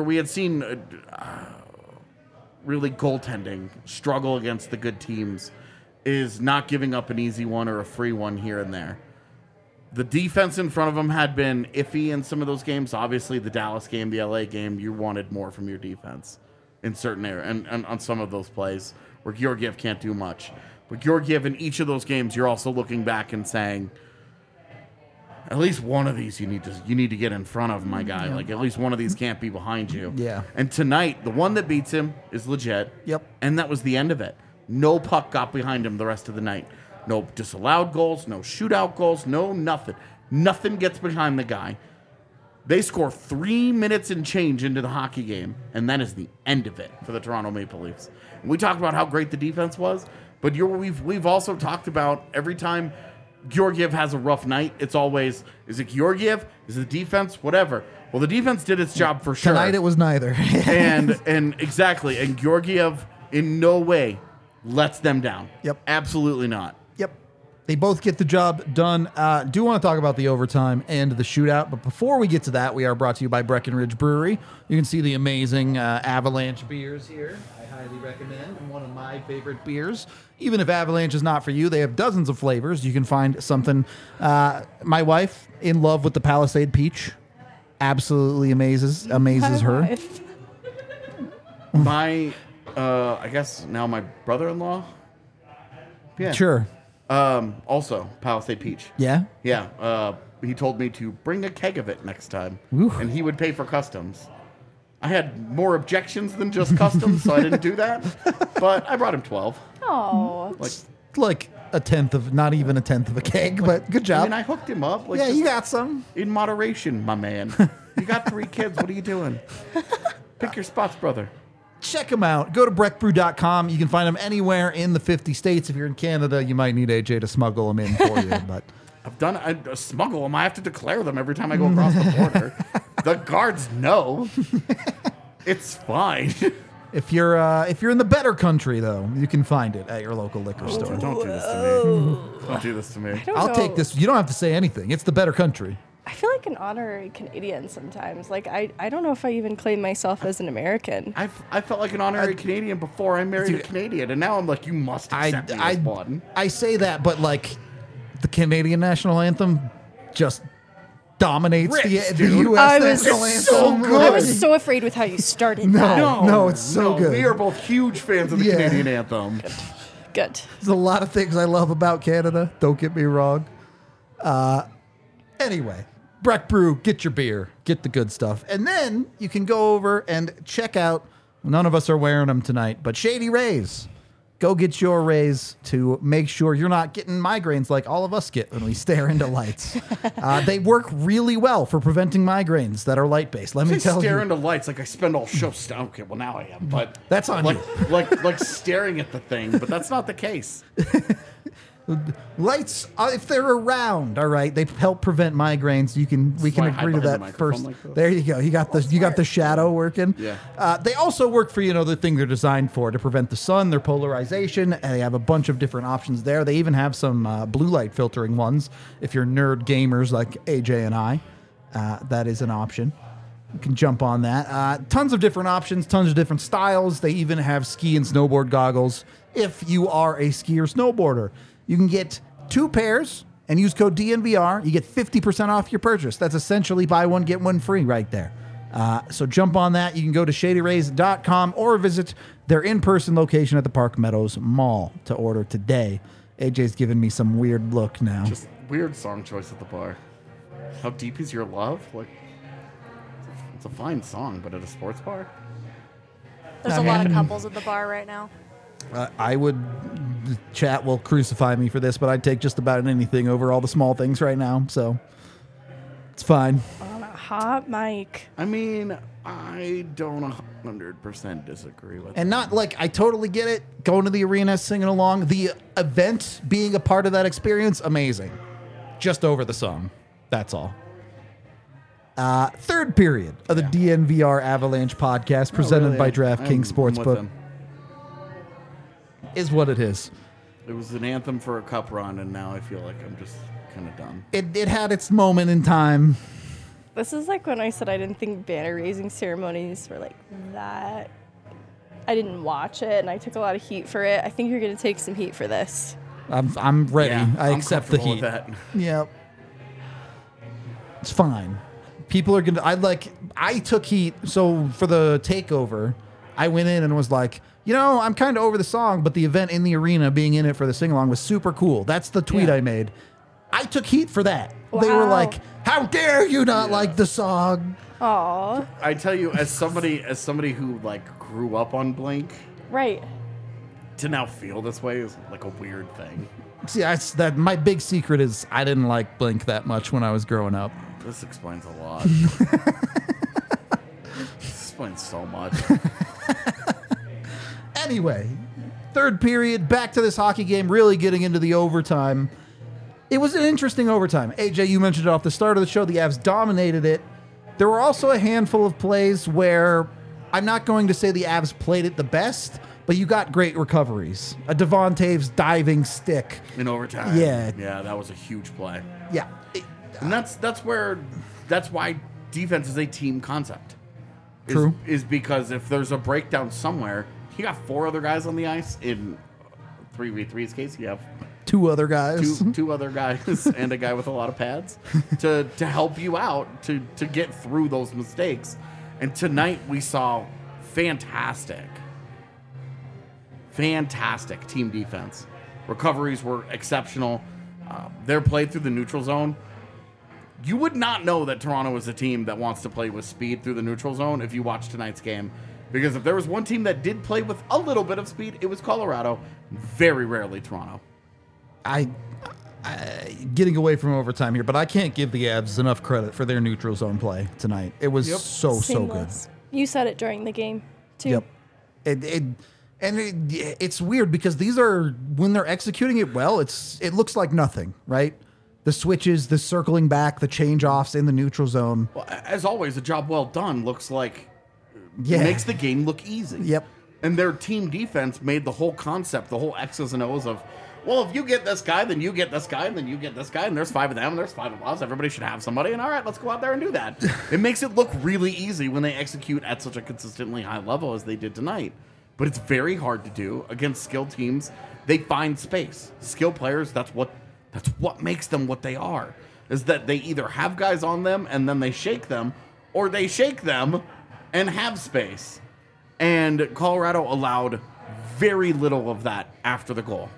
really goaltending struggle against the good teams, is not giving up an easy one or a free one here and there. The defense in front of him had been iffy in some of those games. Obviously, the Dallas game, the LA game, you wanted more from your defense in certain areas and on some of those plays where Georgiev can't do much. But Georgiev, in each of those games, you're also looking back and saying, at least one of these you need to get in front of, my guy. Like, at least one of these can't be behind you. Yeah. And tonight, the one that beats him is legit. Yep. And that was the end of it. No puck got behind him the rest of the night. No disallowed goals, no shootout goals, no nothing. Nothing gets behind the guy. They score 3 minutes and change into the hockey game, and that is the end of it for the Toronto Maple Leafs. And we talked about how great the defense was, but we've also talked about every time Georgiev has a rough night, it's always, is it Georgiev? Is it the defense? Whatever. Well, the defense did its job for sure. Tonight it was neither. and exactly. And Georgiev in no way lets them down. Yep. Absolutely not. Yep. They both get the job done. Do want to talk about the overtime and the shootout, but before we get to that, we are brought to you by Breckenridge Brewery. You can see the amazing Avalanche beers here. I highly recommend, and one of my favorite beers. Even if Avalanche is not for you, they have dozens of flavors. You can find something. My wife, in love with the Palisade Peach, absolutely amazes her. Wife. My, I guess now my brother-in-law. Yeah. Sure. Also, Palisade Peach. Yeah? Yeah. He told me to bring a keg of it next time, Ooh. and he would pay for customs. I had more objections than just customs, so I didn't do that. But I brought him 12. Oh. Like a tenth of, not even a tenth of a keg, but good I job. mean, I hooked him up. Like, yeah, just you got some. in moderation, my man. You got 3 kids. What are you doing? Pick your spots, brother. Check them out. Go to breckbrew.com. You can find them anywhere in the 50 states. If you're in Canada, you might need AJ to smuggle them in for you. But I've done I smuggle them. I have to declare them every time I go across the border. The guards know. It's fine. if you're in the better country, though, you can find it at your local liquor store. Don't do this to me. Don't do this to me. Don't I'll know. take this. You don't have to say anything. It's the better country. I feel like an honorary Canadian sometimes. Like, I don't know if I even claim myself as an American. I felt like an honorary Canadian before I married a Canadian, and now I'm like, you must accept me as one. I say that, but like the Canadian national anthem just dominates Rips, the dude. U.S. I was national so anthem. good. I was so afraid with how you started that. No, it's so good. We are both huge fans of the Yeah. Canadian anthem. Good. There's a lot of things I love about Canada. Don't get me wrong. Anyway, Breck Brew, get your beer, get the good stuff. And then you can go over and check out, none of us are wearing them tonight, but Shady Rays. Go get your rays to make sure you're not getting migraines like all of us get when we stare into lights. They work really well for preventing migraines that are light-based. Let me I tell stare you. into lights like I spend all show. Okay, well now I am, but That's on like, you. like staring at the thing, but that's not the case. Lights, if they're around, all right, they help prevent migraines. We can why I hide agree to behind the that microphone first. like this. There you go. You got the shadow working. Yeah. They also work for the thing they're designed for, to prevent the sun, their polarization. And they have a bunch of different options there. They even have some blue light filtering ones. If you're nerd gamers like AJ and I, that is an option. You can jump on that. Tons of different options, tons of different styles. They even have ski and snowboard goggles if you are a ski or snowboarder. You can get 2 pairs and use code DNVR. You get 50% off your purchase. That's essentially buy one, get one free right there. So jump on that. You can go to shadyrays.com or visit their in-person location at the Park Meadows Mall to order today. AJ's giving me some weird look now. Just weird song choice at the bar. How deep is your love? Like, it's a fine song, but at a sports bar. There's a lot of couples at the bar right now. I would, the chat will crucify me for this, but I'd take just about anything over all the small things right now. So it's fine. On a hot mic. I mean, I don't 100% disagree with And not like, I totally get it. Going to the arena, singing along, the event, being a part of that experience, amazing. Just over the song. That's all. Third period of the DNVR Avalanche podcast presented by DraftKings Sportsbook is what it is. It was an anthem for a cup run, and now I feel like I'm just kind of done. It had its moment in time. This is like when I said I didn't think banner raising ceremonies were like that. I didn't watch it, and I took a lot of heat for it. I think you're going to take some heat for this. I'm ready. Yeah, I I'm accept the comfortable heat. with that. Yep. It's fine. People are gonna. I took heat. So for the takeover, I went in and was like, I'm kind of over the song, but the event in the arena, being in it for the sing along, was super cool. That's the tweet Yeah. I made. I took heat for that. They were Wow. like, "How dare you not like the song?" Aw. I tell you, as somebody who like grew up on Blink, Right. to now feel this way is like a weird thing. See, that my big secret is I didn't like Blink that much when I was growing up. This explains a lot. This explains so much. Anyway, third period, back to this hockey game, really getting into the overtime. It was an interesting overtime. AJ, you mentioned it off the start of the show. The Avs dominated it. There were also a handful of plays where I'm not going to say the Avs played it the best, but you got great recoveries. A Devon Taves diving stick. In overtime. Yeah. Yeah, that was a huge play. Yeah. And that's why defense is a team concept. True. Is because if there's a breakdown somewhere, you got 4 other guys on the ice. In 3v3's case, you have 2 other guys. two other guys and a guy with a lot of pads to help you out to get through those mistakes. And tonight we saw fantastic team defense. Recoveries were exceptional. Their play through the neutral zone. You would not know that Toronto is a team that wants to play with speed through the neutral zone if you watch tonight's game. Because if there was one team that did play with a little bit of speed, it was Colorado. Very rarely Toronto. I getting away from overtime here, but I can't give the Avs enough credit for their neutral zone play tonight. It was so good. Seamless. You said it during the game too. Yep. It's weird because these are, when they're executing it well, it looks like nothing, right? The switches, the circling back, the change offs in the neutral zone. Well, as always, a job well done looks like makes the game look easy. Yep. And their team defense made the whole concept, the whole X's and O's of, well, if you get this guy, then you get this guy, and then you get this guy, and there's 5 of them, and there's 5 of us. Everybody should have somebody, and all right, let's go out there and do that. It makes it look really easy when they execute at such a consistently high level as they did tonight. But it's very hard to do against skilled teams. They find space. Skilled players, that's what makes them what they are, is that they either have guys on them and then they shake them, or they shake them and have space. And Colorado allowed very little of that after the goal.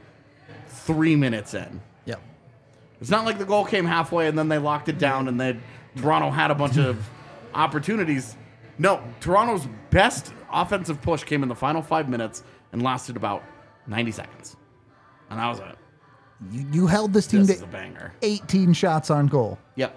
3 minutes in. Yep. It's not like the goal came halfway and then they locked it down and then Toronto had a bunch of opportunities. No, Toronto's best offensive push came in the final 5 minutes and lasted about 90 seconds. And that was it. You held this team This is a to banger. 18 shots on goal. Yep.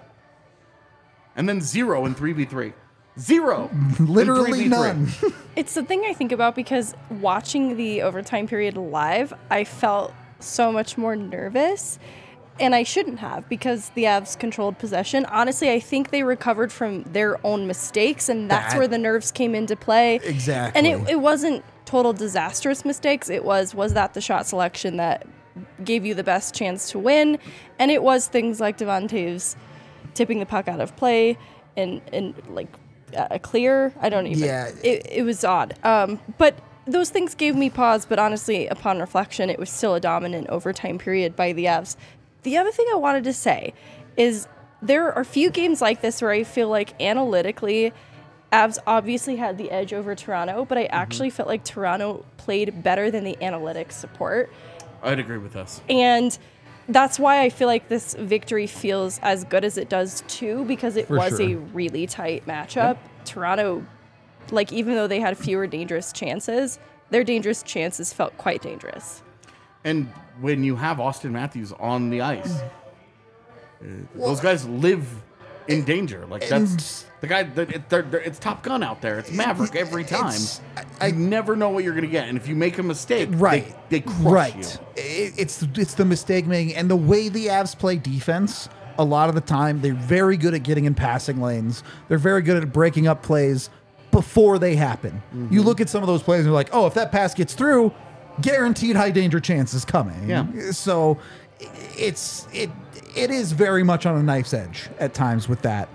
And then 0 in 3v3. 0. Literally in 3v3. none. It's the thing I think about because watching the overtime period live, I felt so much more nervous. And I shouldn't have because the Avs controlled possession. Honestly, I think they recovered from their own mistakes, and that's where the nerves came into play. Exactly. And it wasn't total disastrous mistakes. It was that the shot selection that gave you the best chance to win? And it was things like Devon Toews tipping the puck out of play and like a clear. I don't even. Yeah. It was odd. But those things gave me pause. But honestly, upon reflection, it was still a dominant overtime period by the Avs. The other thing I wanted to say is there are a few games like this where I feel like analytically, Avs obviously had the edge over Toronto, but I actually felt like Toronto played better than the analytics support. I'd agree with this. And that's why I feel like this victory feels as good as it does too, because it was a really tight matchup. Yep. Toronto, like even though they had fewer dangerous chances, their dangerous chances felt quite dangerous. And when you have Austin Matthews on the ice, those guys live in danger. Like that's the guy. It's Top Gun out there. It's Maverick every time. I never know what you're going to get, and if you make a mistake, they crush you. It's the mistake making and the way the Avs play defense. A lot of the time, they're very good at getting in passing lanes. They're very good at breaking up plays before they happen. Mm-hmm. You look at some of those plays and you're like, oh, if that pass gets through, guaranteed high danger chance is coming. Yeah. So it is very much on a knife's edge at times with that.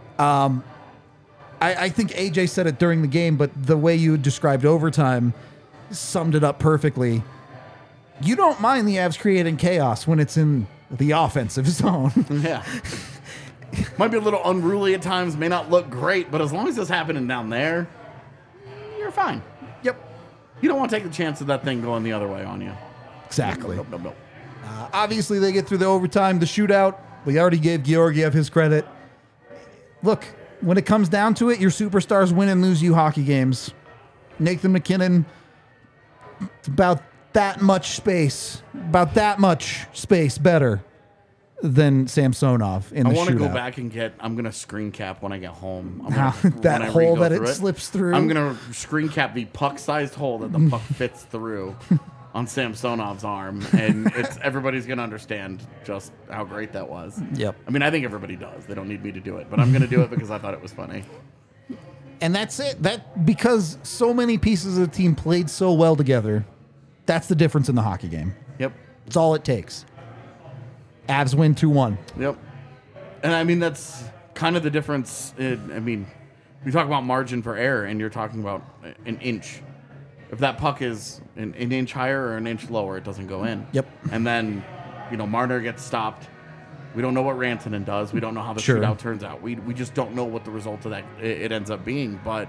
I think AJ said it during the game, but the way you described overtime summed it up perfectly. You don't mind the Avs creating chaos when it's in the offensive zone. Yeah. Might be a little unruly at times, may not look great, but as long as it's happening down there, you're fine. Yep. You don't want to take the chance of that thing going the other way on you. Exactly. Nope. Obviously, they get through the overtime, the shootout. We already gave Georgiev his credit. Look, when it comes down to it, your superstars win and lose you hockey games. Nathan MacKinnon, about that much space better than Samsonov in the shootout. I want to go back and I'm going to screen cap when I get home. That hole that it slips through. I'm going to screen cap the puck-sized hole that the puck fits through on Samsonov's arm, and everybody's going to understand just how great that was. Yep. I mean, I think everybody does. They don't need me to do it, but I'm going to do it because I thought it was funny. And that's it. Because so many pieces of the team played so well together, that's the difference in the hockey game. Yep. It's all it takes. Avs win 2-1. Yep. And I mean, that's kind of the difference. We talk about margin for error, and you're talking about an inch. if that puck is an inch higher or an inch lower, it doesn't go in. Yep. And then, Marner gets stopped. We don't know what Rantanen does. We don't know how the Sure. shootout turns out. We just don't know what the result of that it ends up being. But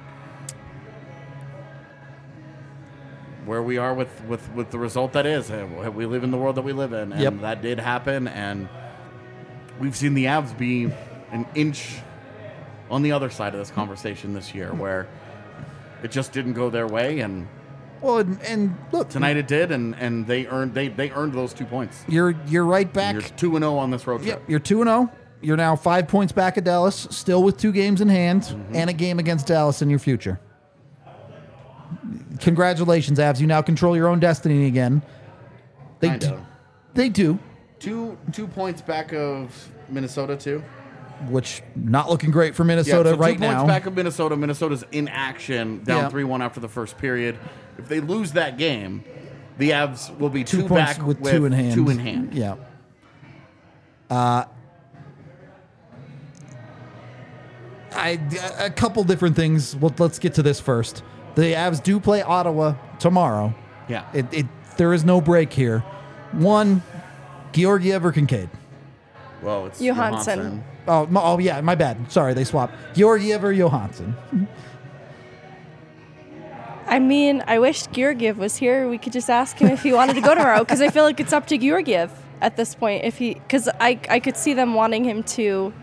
where we are with the result that is, we live in the world that we live in, and Yep. that did happen. And we've seen the Avs be an inch on the other side of this conversation this year, where it just didn't go their way, and Well, and look, tonight it did, and they earned those 2 points. you're right back. You're 2-0 on this road trip. Yep, you're 2-0. You're now 5 points back at Dallas, still with 2 games in hand Mm-hmm. and a game against Dallas in your future. Congratulations, Avs. You now control your own destiny again. Kinda. They do, 2 points back of Minnesota too. which not looking great for Minnesota so right 2 points now. back of Minnesota. Minnesota's in action, down Yeah. 3-1 after the first period. If they lose that game, the Avs will be 2 2 points back with 2 in hand. 2 in hand. Yeah. A couple different things. Well, let's get to this first. The Avs do play Ottawa tomorrow. Yeah. There is no break here. One, Georgiev or Kincaid? Well, it's Johansson. Oh, yeah, my bad. Sorry, they swapped. Georgiev or Johansson? I mean, I wish Georgiev was here. We could just ask him if he wanted to go tomorrow, because I feel like it's up to Georgiev at this point. Because I could see them wanting him to,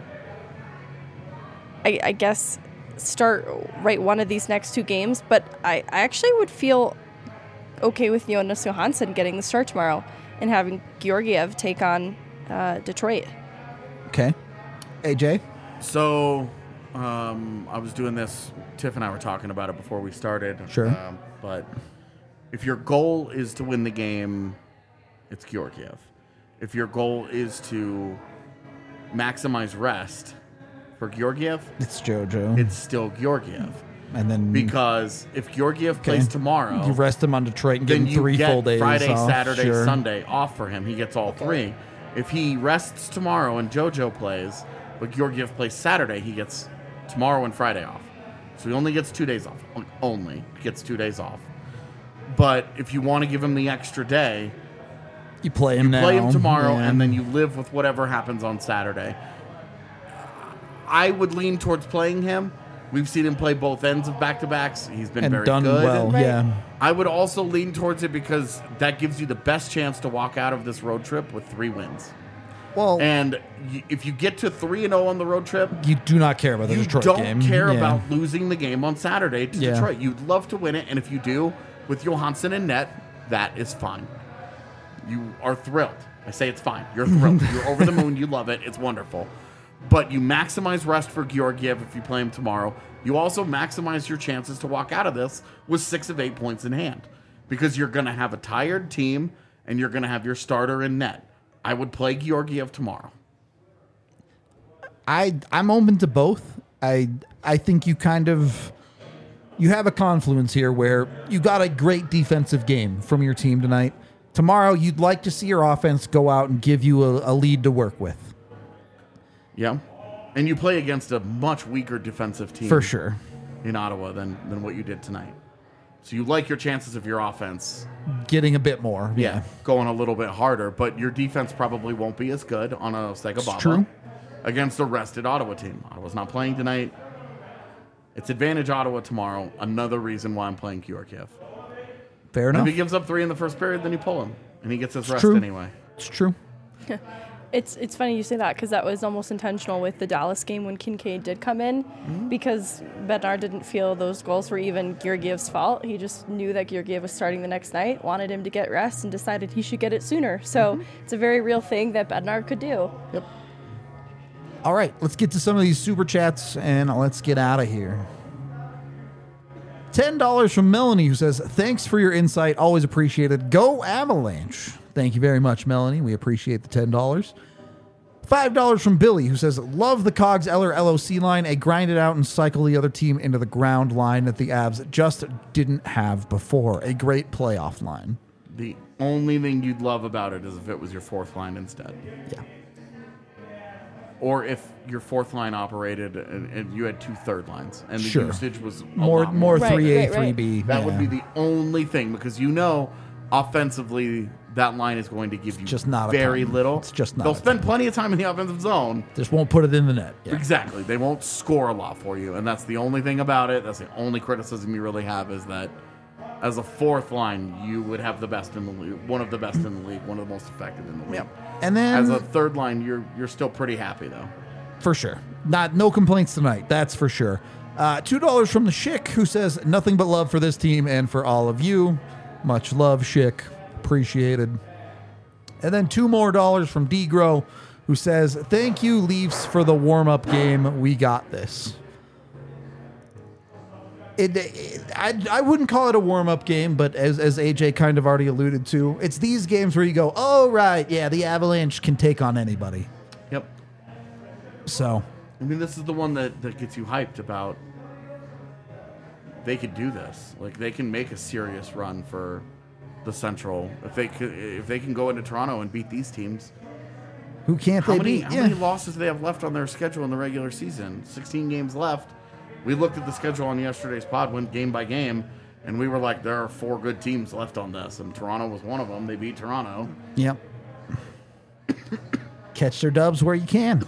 I guess, start one of these next 2 games. But I actually would feel okay with Jonas Johansson getting the start tomorrow and having Georgiev take on Detroit. Okay. AJ? So, I was doing this. Tiff and I were talking about it before we started. Sure. But if your goal is to win the game, it's Georgiev. If your goal is to maximize rest for Georgiev, It's JoJo. it's still Georgiev. and then Because if Georgiev plays tomorrow, you rest him on Detroit and give then him you 3 get full days Friday, off. Saturday, Sure. Sunday off for him. He gets all 3. If he rests tomorrow and JoJo plays, but Georgiev plays Saturday, he gets tomorrow and Friday off. So he only gets 2 days off. Only gets 2 days off. But if you want to give him the extra day, You play him now. play him tomorrow, Yeah. and then you live with whatever happens on Saturday. I would lean towards playing him. We've seen him play both ends of back-to-backs. He's been and very done good. well. Right. Yeah. I would also lean towards it because that gives you the best chance to walk out of this road trip with 3 wins. Well, And if you get to 3-0 on the road trip, you do not care about the you Detroit don't game. care Yeah. about losing the game on Saturday to Yeah. Detroit. You'd love to win it, and if you do, with Johansson in net, that is fine. You are thrilled. I say it's fine. You're thrilled. You're over the moon. You love it. It's wonderful. But you maximize rest for Georgiev if you play him tomorrow. You also maximize your chances to walk out of this with 6 of 8 points in hand, because you're going to have a tired team and you're going to have your starter in net. I would play Georgiev tomorrow. I'm open to both. I think you have a confluence here where you got a great defensive game from your team tonight. Tomorrow, you'd like to see your offense go out and give you a lead to work with. Yeah. And you play against a much weaker defensive team For sure. in Ottawa than what you did tonight. So you like your chances of your offense, Getting a bit more. Yeah. going a little bit harder, but your defense probably won't be as good on a Segababa true. against a rested Ottawa team. Ottawa's not playing tonight. It's advantage Ottawa tomorrow. Another reason why I'm playing Georgiev. Fair And enough. if he gives up 3 in the first period, then you pull him, and he gets his rest true. anyway. It's true. It's funny you say that, because that was almost intentional with the Dallas game when Kincaid did come in, because Bednar didn't feel those goals were even Georgiev's fault. He just knew that Georgiev was starting the next night, wanted him to get rest, and decided he should get it sooner. So it's a very real thing that Bednar could do. Yep. All right, let's get to some of these super chats and let's get out of here. $10 from Melanie, who says, "Thanks for your insight. Always appreciated. Go Avalanche." Thank you very much, Melanie. We appreciate the $10. $5 from Billy, who says, "Love the Cogs Eller LOC line. A grind it out and cycle the other team into the ground line that the Avs just didn't have before. A great playoff line." The only thing you'd love about it is if it was your 4th line instead. Yeah. or if your fourth line operated and you had 2 third lines and the Sure. usage was a More lot more. Right, 3A, right, right. 3B. That would be the only thing, because offensively that line is going to give you just not a very ton. little. It's just not They'll a spend plenty of time in the offensive zone. Just won't put it in the net. Yeah. Exactly. They won't score a lot for you, and that's the only thing about it. That's the only criticism you really have, is that as a fourth line, you would have the best in the league, one of the best in the league, one of the most effective in the league. And then As a third line, you're still pretty happy though. for sure. No complaints tonight. That's for sure. $2 from the Schick, who says nothing but love for this team and for all of you. Much love, Schick. Appreciated. And then $2 more from D-Grow, who says, thank you, Leafs, for the warm-up game. We got this. I wouldn't call it a warm-up game, but as AJ kind of already alluded to, it's these games where you go, oh, right, yeah, the Avalanche can take on anybody. Yep. So, I mean, this is the one that gets you hyped about. They could do this. Like, they can make a serious run for the Central if they can go into Toronto and beat these teams. who can't How they many beat? how many losses do they have left on their schedule in the regular season? 16 games left. We looked at the schedule on yesterday's pod, went game by game, and we were like, there are 4 good teams left on this, and Toronto was one of them. They beat Toronto. Yep. Catch their dubs where you can.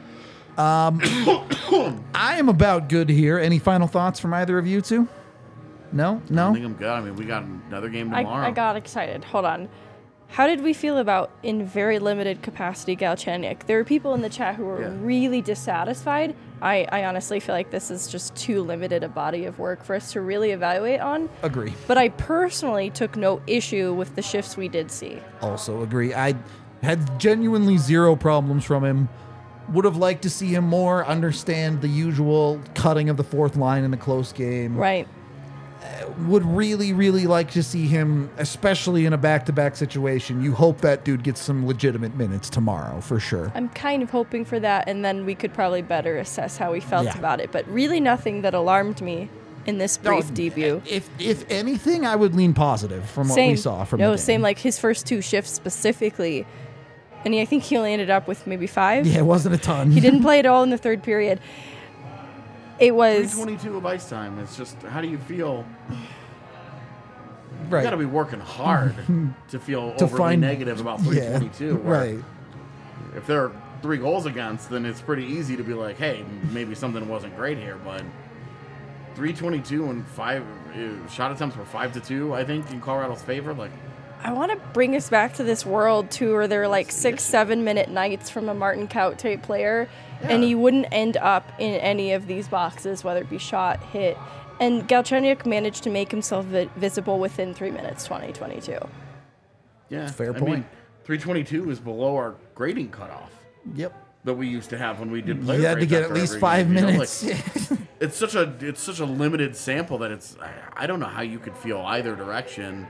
I am about good here. Any final thoughts from either of you two? No? I No? think I'm good. I mean, we got another game tomorrow. I got excited. Hold on. How did we feel about, in very limited capacity, Galchenyuk? There were people in the chat who were Yeah. really dissatisfied. I honestly feel like this is just too limited a body of work for us to really evaluate on. Agree. But I personally took no issue with the shifts we did see. Also agree. I had genuinely zero problems from him. Would have liked to see him more understand the usual cutting of the fourth line in a close game. Right. Would really, really like to see him, especially in a back-to-back situation. You hope that dude gets some legitimate minutes tomorrow, for sure. I'm kind of hoping for that, and then we could probably better assess how we felt Yeah. about it. But really nothing that alarmed me in this brief debut. If anything, I would lean positive from what we saw from the game. same, like his first 2 shifts specifically. And I think he only ended up with maybe 5. Yeah, it wasn't a ton. He didn't play at all in the third period. It was 3:22 of ice time. It's just, how do you feel? Right. You got to be working hard to feel To overly find- negative about Yeah, 3:22. where right. If there are 3 goals against, then it's pretty easy to be like, hey, maybe something wasn't great here. But 3:22 and 5 shot attempts were 5-2, I think, in Colorado's favor. Like, I want to bring us back to this world too, where there were like 6-7 minute nights from a Martin Kaut type player, and he wouldn't end up in any of these boxes, whether it be shot, hit. And Galchenyuk managed to make himself visible within 3 minutes, 2022. yeah, Fair I point. mean, 3:22 is below our grading cutoff Yep. that we used to have when we did play. You had to get at least 5 minutes. It's such a limited sample that I don't know how you could feel either direction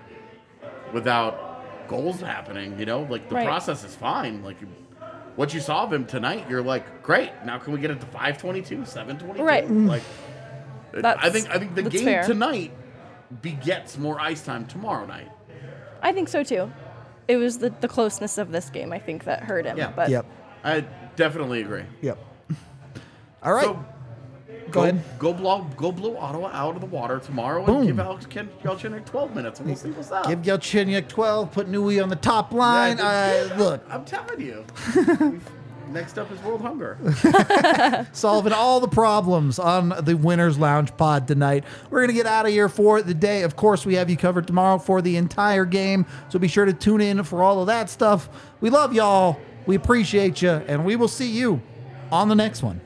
without goals happening. Like the Right. process is fine. Like what you saw of him tonight, you're like, great. Now can we get it to 5:22, 7:22? Right. Like I That's- think the that's game fair. tonight begets more ice time tomorrow night. I think so too. It was the closeness of this game, I think, that hurt him. Yeah. But Yep. I definitely agree. Yep. All right. So Go ahead. Go blow Ottawa out of the water tomorrow Boom. and give Alex Galchenyuk 12 minutes, and we'll see what's up. Give Galchenyuk 12, put Nui on the top line. Look, I'm telling you. Next up is World Hunger. solving all the problems on the Winners Lounge pod tonight. We're going to get out of here for the day. Of course, we have you covered tomorrow for the entire game, so be sure to tune in for all of that stuff. We love y'all. We appreciate you, and we will see you on the next one.